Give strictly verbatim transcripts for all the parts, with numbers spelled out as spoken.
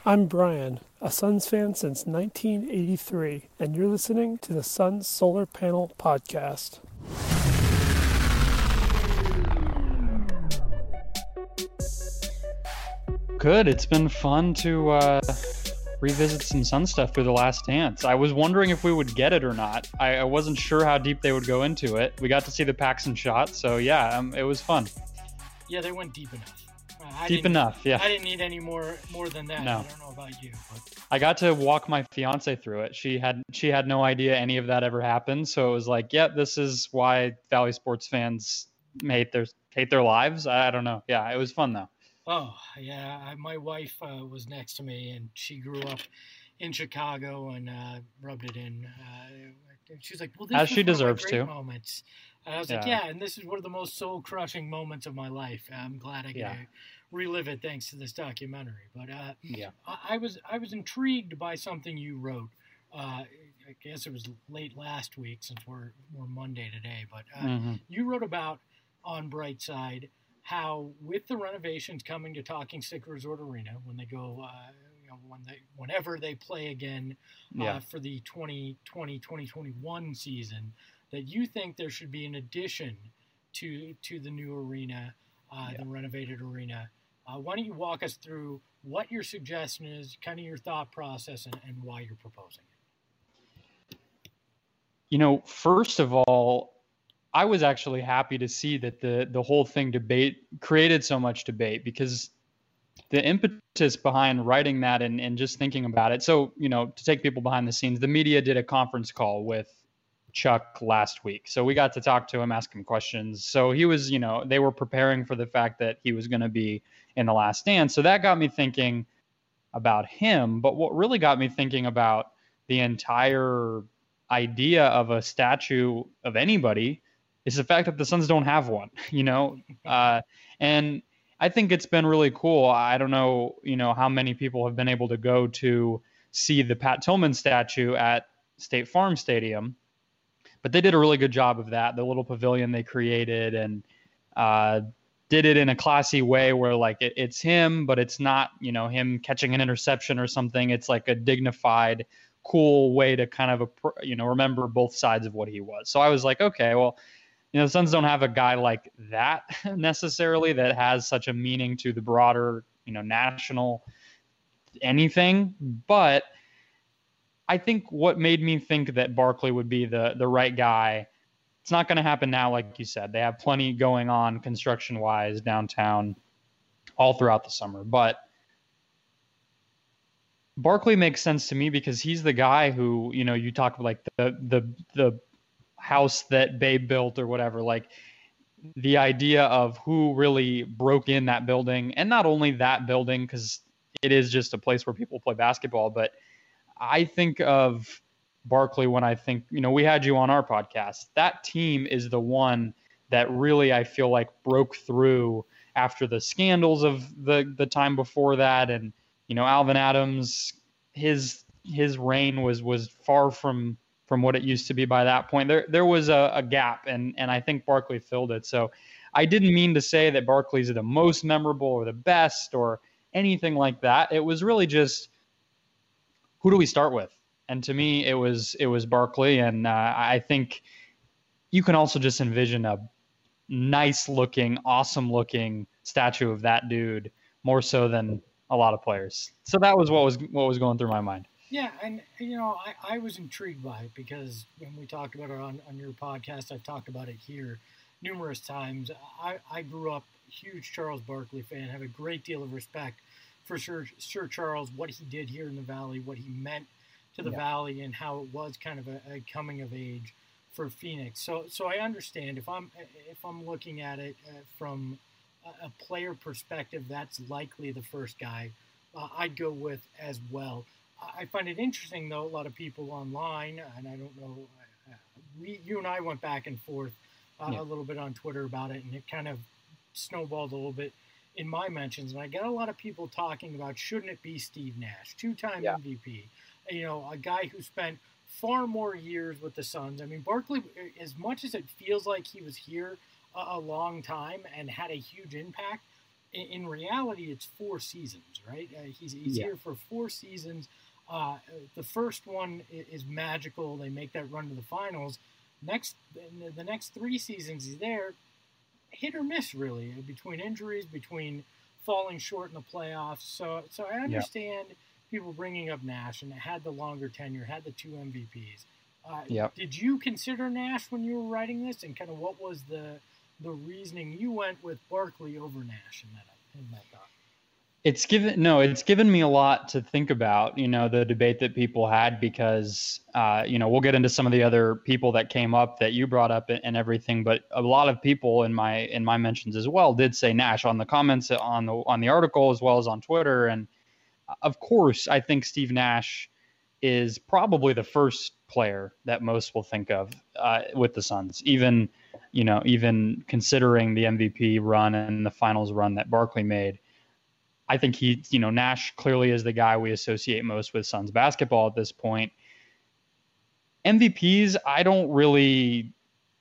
I'm Brian, a Suns fan since nineteen eighty-three, and you're listening to the Suns Solar Panel Podcast. Good. It's been fun to uh, revisit some Sun stuff through The Last Dance. I was wondering if we would get it or not. I, I wasn't sure how deep they would go into it. We got to see the Paxson shot, so yeah, um, it was fun. Yeah, they went deep enough. Uh, I deep enough, yeah. I didn't need any more more than that. No. I don't know about you, but I got to walk my fiance through it. She had she had no idea any of that ever happened, so it was like, yeah, this is why Valley sports fans hate their hate their lives. I, I don't know. Yeah, it was fun though. Oh, yeah. I, my wife uh, was next to me, and she grew up in Chicago and uh, rubbed it in. Uh, she's like, well, this As was she one of my deserves great to. moments. And I was like, Yeah. yeah, and this is one of the most soul-crushing moments of my life. I'm glad I get Yeah. to relive it thanks to this documentary. But uh, Yeah. I, I was I was intrigued by something you wrote. Uh, I guess it was late last week since we're, we're Monday today. But uh, Mm-hmm. you wrote about on Brightside how with the renovations coming to Talking Stick Resort Arena when they go, uh, you know, when they, whenever they play again uh, Yeah. for the twenty twenty twenty twenty-one season, that you think there should be an addition to to the new arena, uh, Yeah. the renovated arena. Uh, why don't you walk us through what your suggestion is, kind of your thought process, and, and why you're proposing it? You know, first of all, I was actually happy to see that the the whole thing debate created so much debate, because the impetus behind writing that and, and just thinking about it. So, you know, to take people behind the scenes, the media did a conference call with Chuck last week. So we got to talk to him, ask him questions. So he was, you know, they were preparing for the fact that he was going to be in The Last Dance. So that got me thinking about him. But what really got me thinking about the entire idea of a statue of anybody is the fact that the Suns don't have one, you know? Uh, and I think it's been really cool. I don't know, you know, how many people have been able to go to see the Pat Tillman statue at State Farm Stadium, but they did a really good job of that. The little pavilion they created and uh, did it in a classy way where like it, it's him, but it's not, you know, him catching an interception or something. It's like a dignified, cool way to kind of, you know, remember both sides of what he was. So I was like, okay, well, you know, the Suns don't have a guy like that necessarily that has such a meaning to the broader, you know, national anything. But I think what made me think that Barkley would be the the right guy, it's not going to happen now, like you said. They have plenty going on construction-wise downtown all throughout the summer. But Barkley makes sense to me because he's the guy who, you know, you talk about like the the the house that Babe built or whatever, like the idea of who really broke in that building, and not only that building, because it is just a place where people play basketball, but I think of Barkley when I think, you know, we had you on our podcast. That team is the one that really, I feel like, broke through after the scandals of the the time before that. And, you know, Alvin Adams, his his reign was was far from from what it used to be by that point. There there was a, a gap, and and I think Barkley filled it. So I didn't mean to say that Barkley's the most memorable or the best or anything like that. It was really just, who do we start with? And to me, it was it was Barkley, and uh, I think you can also just envision a nice-looking, awesome-looking statue of that dude more so than a lot of players. So that was what was what was going through my mind. Yeah, and you know, I, I was intrigued by it because when we talked about it on, on your podcast, I've talked about it here numerous times. I, I grew up a huge Charles Barkley fan, have a great deal of respect for Sir, Sir Charles, what he did here in the Valley, what he meant to the Yeah. Valley, and how it was kind of a, a coming of age for Phoenix. So so I understand if I'm if I'm looking at it uh, from a, a player perspective, that's likely the first guy uh, I'd go with as well. I find it interesting, though, a lot of people online, and I don't know, uh, we, you and I went back and forth uh, Yeah. a little bit on Twitter about it, and it kind of snowballed a little bit in my mentions. And I get a lot of people talking about, shouldn't it be Steve Nash, two-time Yeah. M V P, you know, a guy who spent far more years with the Suns. I mean, Barkley, as much as it feels like he was here a, a long time and had a huge impact, in, in reality, it's four seasons, right? Uh, he's he's Yeah. here for four seasons. Uh, the first one is magical. They make that run to the finals. Next, the next three seasons he's there, hit or miss really, between injuries, between falling short in the playoffs. So, so I understand yeah. people bringing up Nash, and had the longer tenure, had the two M V Ps. Uh, yep. Did you consider Nash when you were writing this, and kind of what was the the reasoning you went with Barkley over Nash in that in that thought? It's given no, it's given me a lot to think about, you know, the debate that people had, because, uh, you know, we'll get into some of the other people that came up that you brought up and everything. But a lot of people in my in my mentions as well did say Nash on the comments on the on the article as well as on Twitter. And of course, I think Steve Nash is probably the first player that most will think of uh, with the Suns, even, you know, even considering the M V P run and the finals run that Barkley made. I think he, you know, Nash clearly is the guy we associate most with Suns basketball at this point. M V Ps, I don't really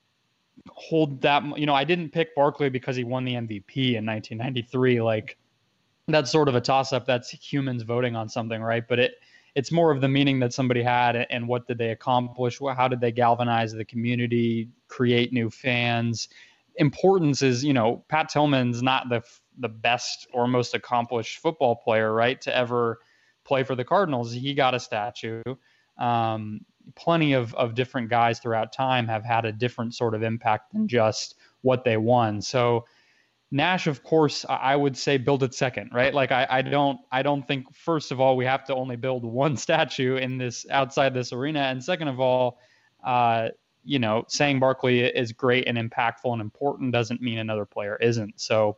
hold that, you know, I didn't pick Barkley because he won the M V P in nineteen ninety-three. Like, that's sort of a toss-up. That's humans voting on something, right? But it it's more of the meaning that somebody had and what did they accomplish? How did they galvanize the community, create new fans? Importance is, you know, Pat Tillman's not the the best or most accomplished football player, right, to ever play for the Cardinals. He got a statue. Um, plenty of, of different guys throughout time have had a different sort of impact than just what they won. So Nash, of course, I would say build it second, right? Like I, I don't I don't think, first of all, we have to only build one statue in this outside this arena. And second of all, uh, you know, saying Barkley is great and impactful and important doesn't mean another player isn't. So,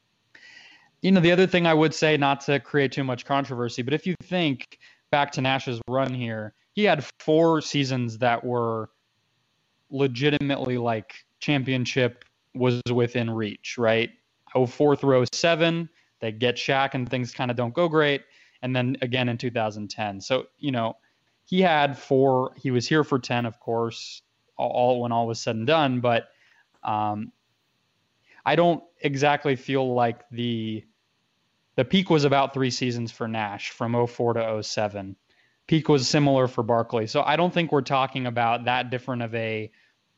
you know, the other thing I would say, not to create too much controversy, but if you think back to Nash's run here, he had four seasons that were legitimately like championship was within reach, right? oh four through oh seven, they get Shaq and things kind of don't go great. And then again in two thousand ten. So, you know, he had four, he was here for ten, of course, all when all was said and done. But um, I don't exactly feel like the the peak was about three seasons for Nash from oh four to oh seven. Peak was similar for Barkley. So I don't think we're talking about that different of a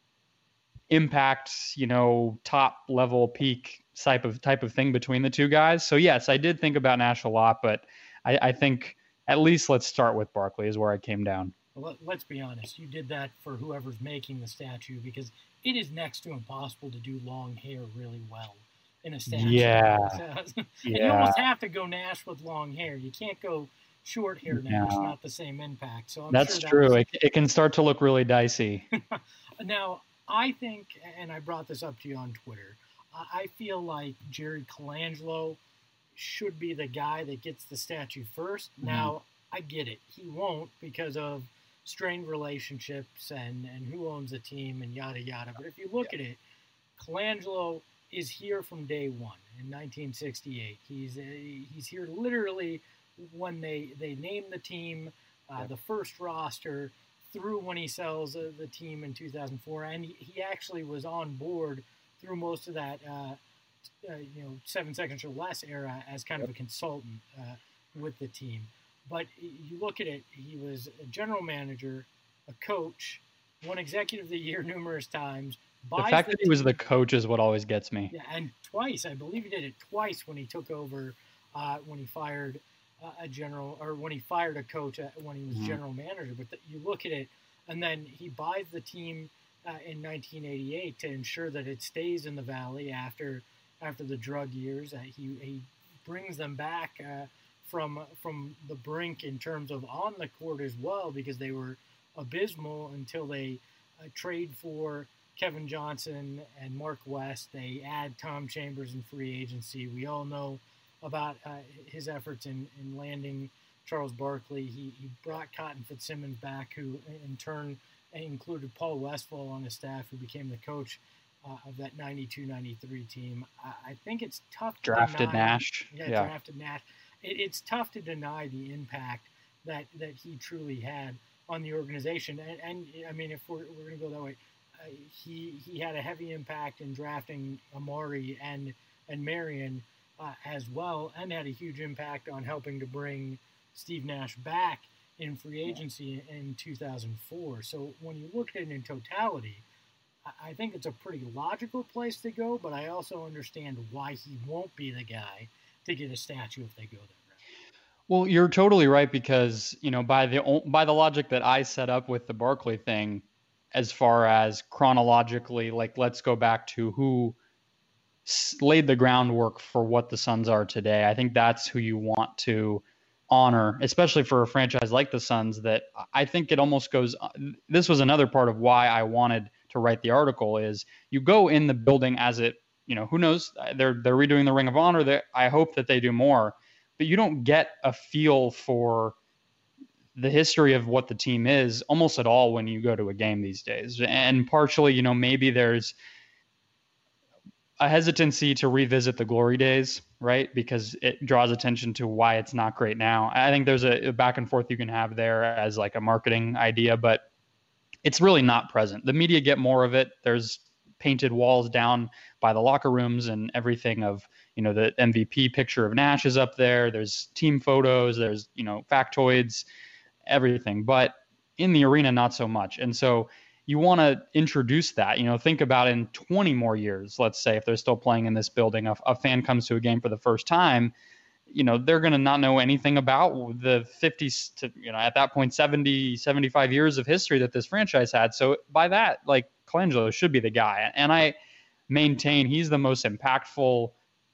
impact, you know, top level peak type of type of thing between the two guys. So yes, I did think about Nash a lot, but I, I think at least let's start with Barkley is where I came down. Well, let's be honest. You did that for whoever's making the statue, because it is next to impossible to do long hair really well in a statue. Yeah. and yeah. you almost have to go Nash with long hair. You can't go short hair Nash, no. not the same impact. So I'm That's sure that true. Was... It, it can start to look really dicey. Now, I think, and I brought this up to you on Twitter, I feel like Jerry Colangelo should be the guy that gets the statue first. Mm-hmm. Now, I get it. He won't because of strained relationships and, and who owns the team and yada, yada. But if you look yeah. at it, Colangelo is here from day one in nineteen sixty-eight. He's uh, he's here literally when they, they name the team, uh, yeah. the first roster, through when he sells uh, the team in two thousand four. And he, he actually was on board through most of that, uh, uh, you know, seven seconds or less era as kind of a consultant uh, with the team. But you look at it, he was a general manager, a coach, won executive of the year numerous times. The fact the that he was the coach is what always gets me. Yeah, and twice, I believe he did it twice when he took over, uh, when he fired uh, a general, or when he fired a coach uh, when he was mm-hmm. general manager. But the, you look at it, and then he buys the team uh, in nineteen eighty-eight to ensure that it stays in the Valley after after the drug years. Uh, he he brings them back uh, from from the brink in terms of on the court as well, because they were abysmal until they uh, trade for Kevin Johnson and Mark West. They add Tom Chambers in free agency. We all know about uh, his efforts in, in landing Charles Barkley. He, he brought Cotton Fitzsimmons back, who in turn included Paul Westphal on his staff, who became the coach uh, of that ninety-two ninety-three team. I, I think it's tough to drafted deny, Nash. Yeah, yeah, drafted Nash. It, it's tough to deny the impact that, that he truly had on the organization. And, and I mean, if we're, we're going to go that way, uh, he he had a heavy impact in drafting Amari and and Marion uh, as well, and had a huge impact on helping to bring Steve Nash back in free agency in two thousand four. So when you look at it in totality, I think it's a pretty logical place to go, but I also understand why he won't be the guy to get a statue if they go there. Well, you're totally right, because, you know, by the by the logic that I set up with the Barkley thing, as far as chronologically, like, let's go back to who laid the groundwork for what the Suns are today. I think that's who you want to honor, especially for a franchise like the Suns, that I think it almost goes, this was another part of why I wanted to write the article, is you go in the building as it, you know, who knows, they're, they're redoing the Ring of Honor. That I hope that they do more, but you don't get a feel for the history of what the team is almost at all when you go to a game these days. And partially, you know, maybe there's a hesitancy to revisit the glory days, right? Because it draws attention to why it's not great now. I think there's a, a back and forth you can have there as like a marketing idea, but it's really not present. The media get more of it. There's painted walls down by the locker rooms and everything of, you know, the M V P picture of Nash is up there. There's team photos, there's, you know, factoids, everything, but in the arena, not so much. And so you want to introduce that, you know, think about in twenty more years, let's say, if they're still playing in this building, a, a fan comes to a game for the first time, you know, they're going to not know anything about the fifties to, you know, at that point, seventy, seventy-five years of history that this franchise had. So by that, like, Colangelo should be the guy. And I maintain he's the most impactful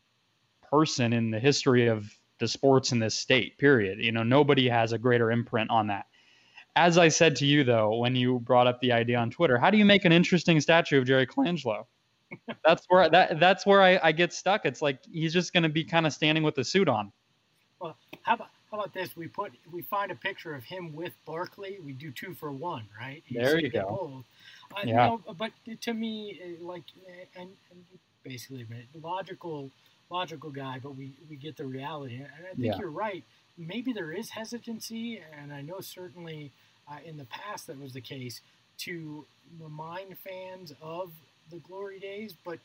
person in the history of the sports in this state, period. You know, nobody has a greater imprint on that. As I said to you, though, when you brought up the idea on Twitter, how do you make an interesting statue of Jerry Colangelo? That's where that that's where I, I get stuck. It's like he's just going to be kind of standing with the suit on. Well, how about how about this? We put we find a picture of him with Barkley. We do two for one, right? You there you go. Uh, yeah. You know, but to me, like, and, and basically, logical, logical guy. But we, we get the reality, and I think yeah. you're right. Maybe there is hesitancy, and I know certainly uh, in the past that was the case, to remind fans of the glory days, but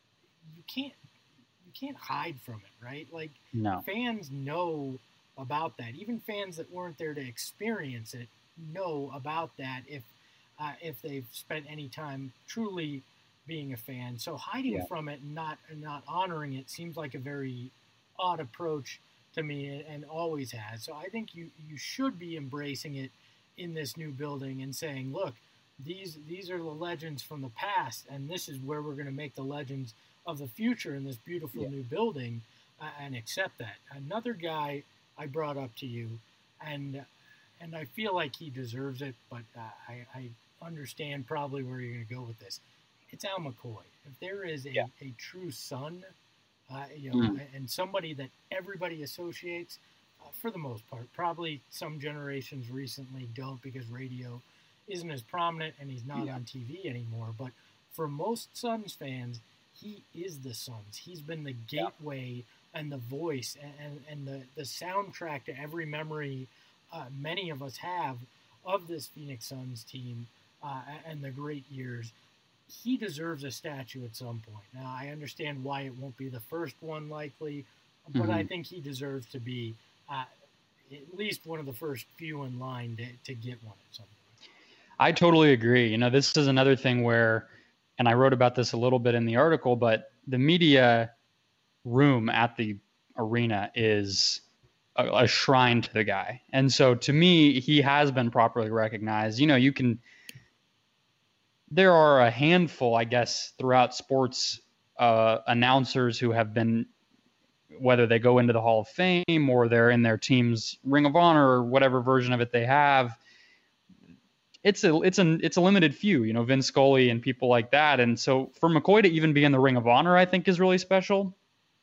you can't you can't hide from it, right? Like, no. Fans know about that. Even fans that weren't there to experience it know about that if uh, if they've spent any time truly being a fan. So hiding yeah. from it and not and not honoring it seems like a very odd approach to me, and always has. So I think you you should be embracing it in this new building and saying, look, these these are the legends from the past, and this is where we're going to make the legends of the future in this beautiful yeah. new building, uh, and accept that. Another guy I brought up to you, and and I feel like he deserves it, but uh, I, I understand probably where you're going to go with this. It's Al McCoy. If there is a, yeah. a true son, uh, you know, mm. and somebody that everybody associates, uh, for the most part, probably some generations recently don't, because radio isn't as prominent and he's not yeah. on T V anymore. But for most Suns fans, he is the Suns. He's been the gateway yeah. and the voice and, and, and the, the soundtrack to every memory uh, many of us have of this Phoenix Suns team uh, and the great years. He deserves a statue at some point. Now, I understand why it won't be the first one likely, but mm-hmm. I think he deserves to be uh, at least one of the first few in line to, to get one at some point. I totally agree. You know, this is another thing where, and I wrote about this a little bit in the article, but the media room at the arena is a, a shrine to the guy. And so to me, he has been properly recognized. You know, you can, there are a handful, I guess, throughout sports uh, announcers who have been, whether they go into the Hall of Fame or they're in their team's Ring of Honor or whatever version of it they have. It's a it's a it's a limited few, you know, Vin Scully and people like that. And so for McCoy to even be in the Ring of Honor, I think is really special.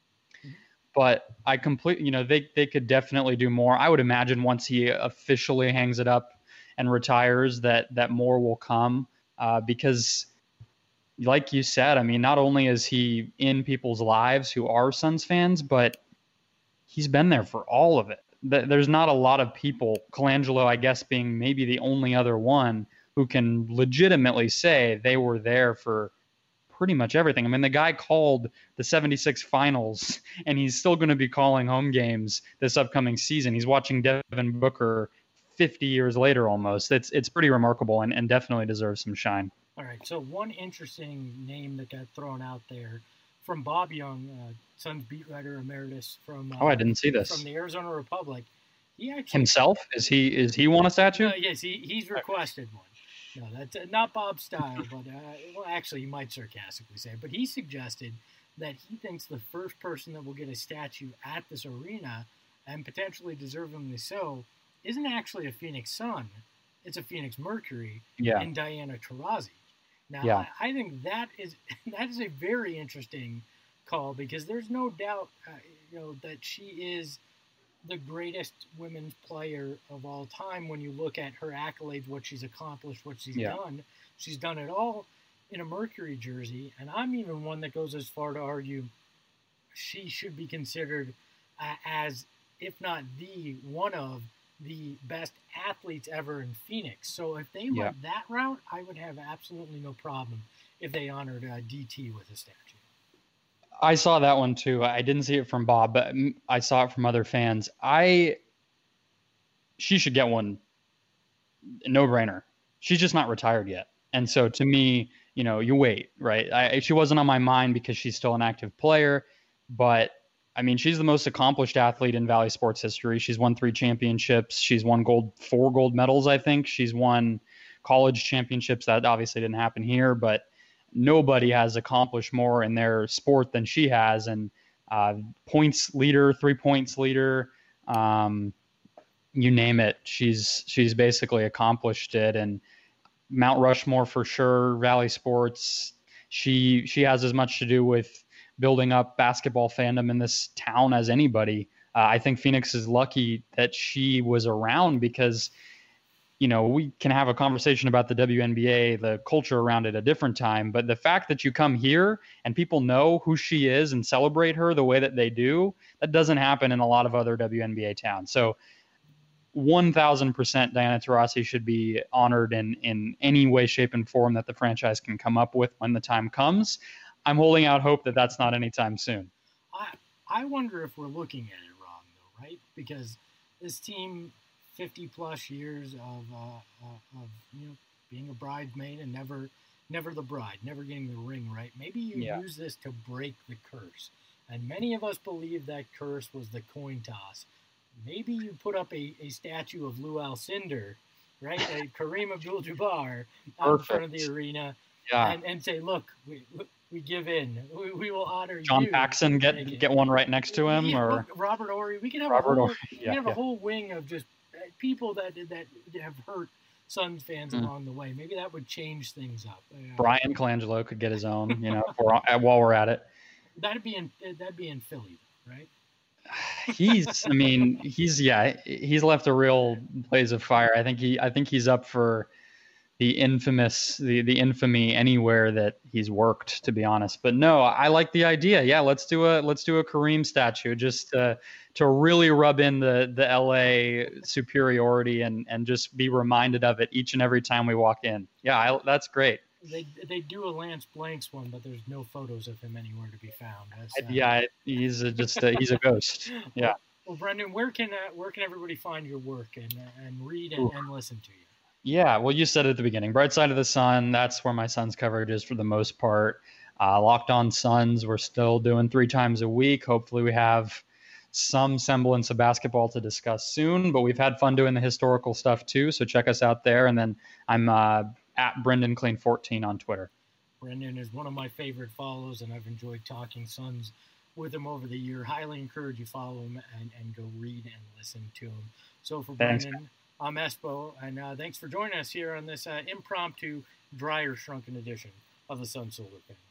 But I completely, you know, they they could definitely do more. I would imagine once he officially hangs it up and retires, that that more will come. Uh, because, like you said, I mean, not only is he in people's lives who are Suns fans, but he's been there for all of it. There's not a lot of people, Colangelo, I guess, being maybe the only other one, who can legitimately say they were there for pretty much everything. I mean, the guy called the seventy-six finals, and he's still going to be calling home games this upcoming season. He's watching Devin Booker fifty years later almost. It's it's pretty remarkable, and, and definitely deserves some shine. All right, so one interesting name that got thrown out there from Bob Young, uh, Suns beat writer emeritus from uh, oh, I didn't see this. from the Arizona Republic. He actually himself is he is he won a statue? Uh, yes, he, he's requested one. No, that's uh, not Bob's style, but uh, well, actually, he might sarcastically say, but he suggested that he thinks the first person that will get a statue at this arena, and potentially deservingly so, isn't actually a Phoenix Sun. It's a Phoenix Mercury yeah. and Diana Taurasi. Now, yeah. I, I think that is that is a very interesting call, because there's no doubt, uh, you know, that she is the greatest women's player of all time when you look at her accolades, what she's accomplished, what she's yeah. done. She's done it all in a Mercury jersey, and I'm even one that goes as far to argue she should be considered uh, as, if not the, one of the best athletes ever in Phoenix. So if they yeah. went that route, I would have absolutely no problem if they honored uh, D T with a statue. I saw that one too. I didn't see it from Bob, but I saw it from other fans. I, she should get one. No brainer. She's just not retired yet. And so to me, you know, you wait, right? I, she wasn't on my mind because she's still an active player, but I mean, she's the most accomplished athlete in Valley sports history. She's won three championships. She's won gold, four gold medals, I think. She's won college championships. That obviously didn't happen here, but nobody has accomplished more in their sport than she has. And uh, points leader, three points leader, um, you name it. She's she's basically accomplished it. And Mount Rushmore for sure. Valley sports. She she has as much to do with building up basketball fandom in this town as anybody. Uh, I think Phoenix is lucky that she was around, because you know, we can have a conversation about the W N B A, the culture around it, a different time. But the fact that you come here and people know who she is and celebrate her the way that they do, that doesn't happen in a lot of other W N B A towns. So one thousand percent Diana Taurasi should be honored in, in any way, shape, and form that the franchise can come up with when the time comes. I'm holding out hope that that's not anytime soon. I, I wonder if we're looking at it wrong, though, right? Because this team, fifty plus years of uh, uh, of you know being a bridesmaid and never never the bride, never getting the ring right. Maybe you yeah. use this to break the curse. And many of us believe that curse was the coin toss. Maybe you put up a, a statue of Lou Alcindor, right? A Kareem Abdul-Jabbar out in front of the arena, yeah. and, and say, look, we we give in. We, we will honor John you. John Paxson, get get one right next to him, yeah, or look, Robert Horry. We can have Robert a whole, Horry. we Yeah, can have yeah. a whole wing of just people that that have hurt Suns fans mm. along the way. Maybe that would change things up. Uh, Brian Colangelo could get his own, you know, for, while we're at it. That'd be in that'd be in Philly, right? He's, I mean, he's yeah, he's left a real blaze of fire. I think he, I think he's up for the infamous, the the infamy anywhere that he's worked, to be honest. But no, I like the idea. Yeah, let's do a let's do a Kareem statue, just to to really rub in the the L A superiority and and just be reminded of it each and every time we walk in. Yeah, I, that's great. They they do a Lance Blanks one, but there's no photos of him anywhere to be found. As, uh, yeah, he's a, just a, he's a ghost. Yeah. Well, well Brendan, where can uh, where can everybody find your work and uh, and read and, and listen to you? Yeah, well, you said it at the beginning. Bright Side of the Sun, that's where my Suns coverage is for the most part. Uh, Locked On Suns, we're still doing three times a week. Hopefully we have some semblance of basketball to discuss soon, but we've had fun doing the historical stuff too, so check us out there. And then I'm uh, at Brendan Clean fourteen on Twitter. Brendan is one of my favorite follows, and I've enjoyed talking Suns with him over the year. Highly encourage you follow him and, and go read and listen to him. So for Thanks, Brendan, man. I'm Espo, and uh, thanks for joining us here on this uh, impromptu, drier, shrunken edition of the Sun Solar Panel.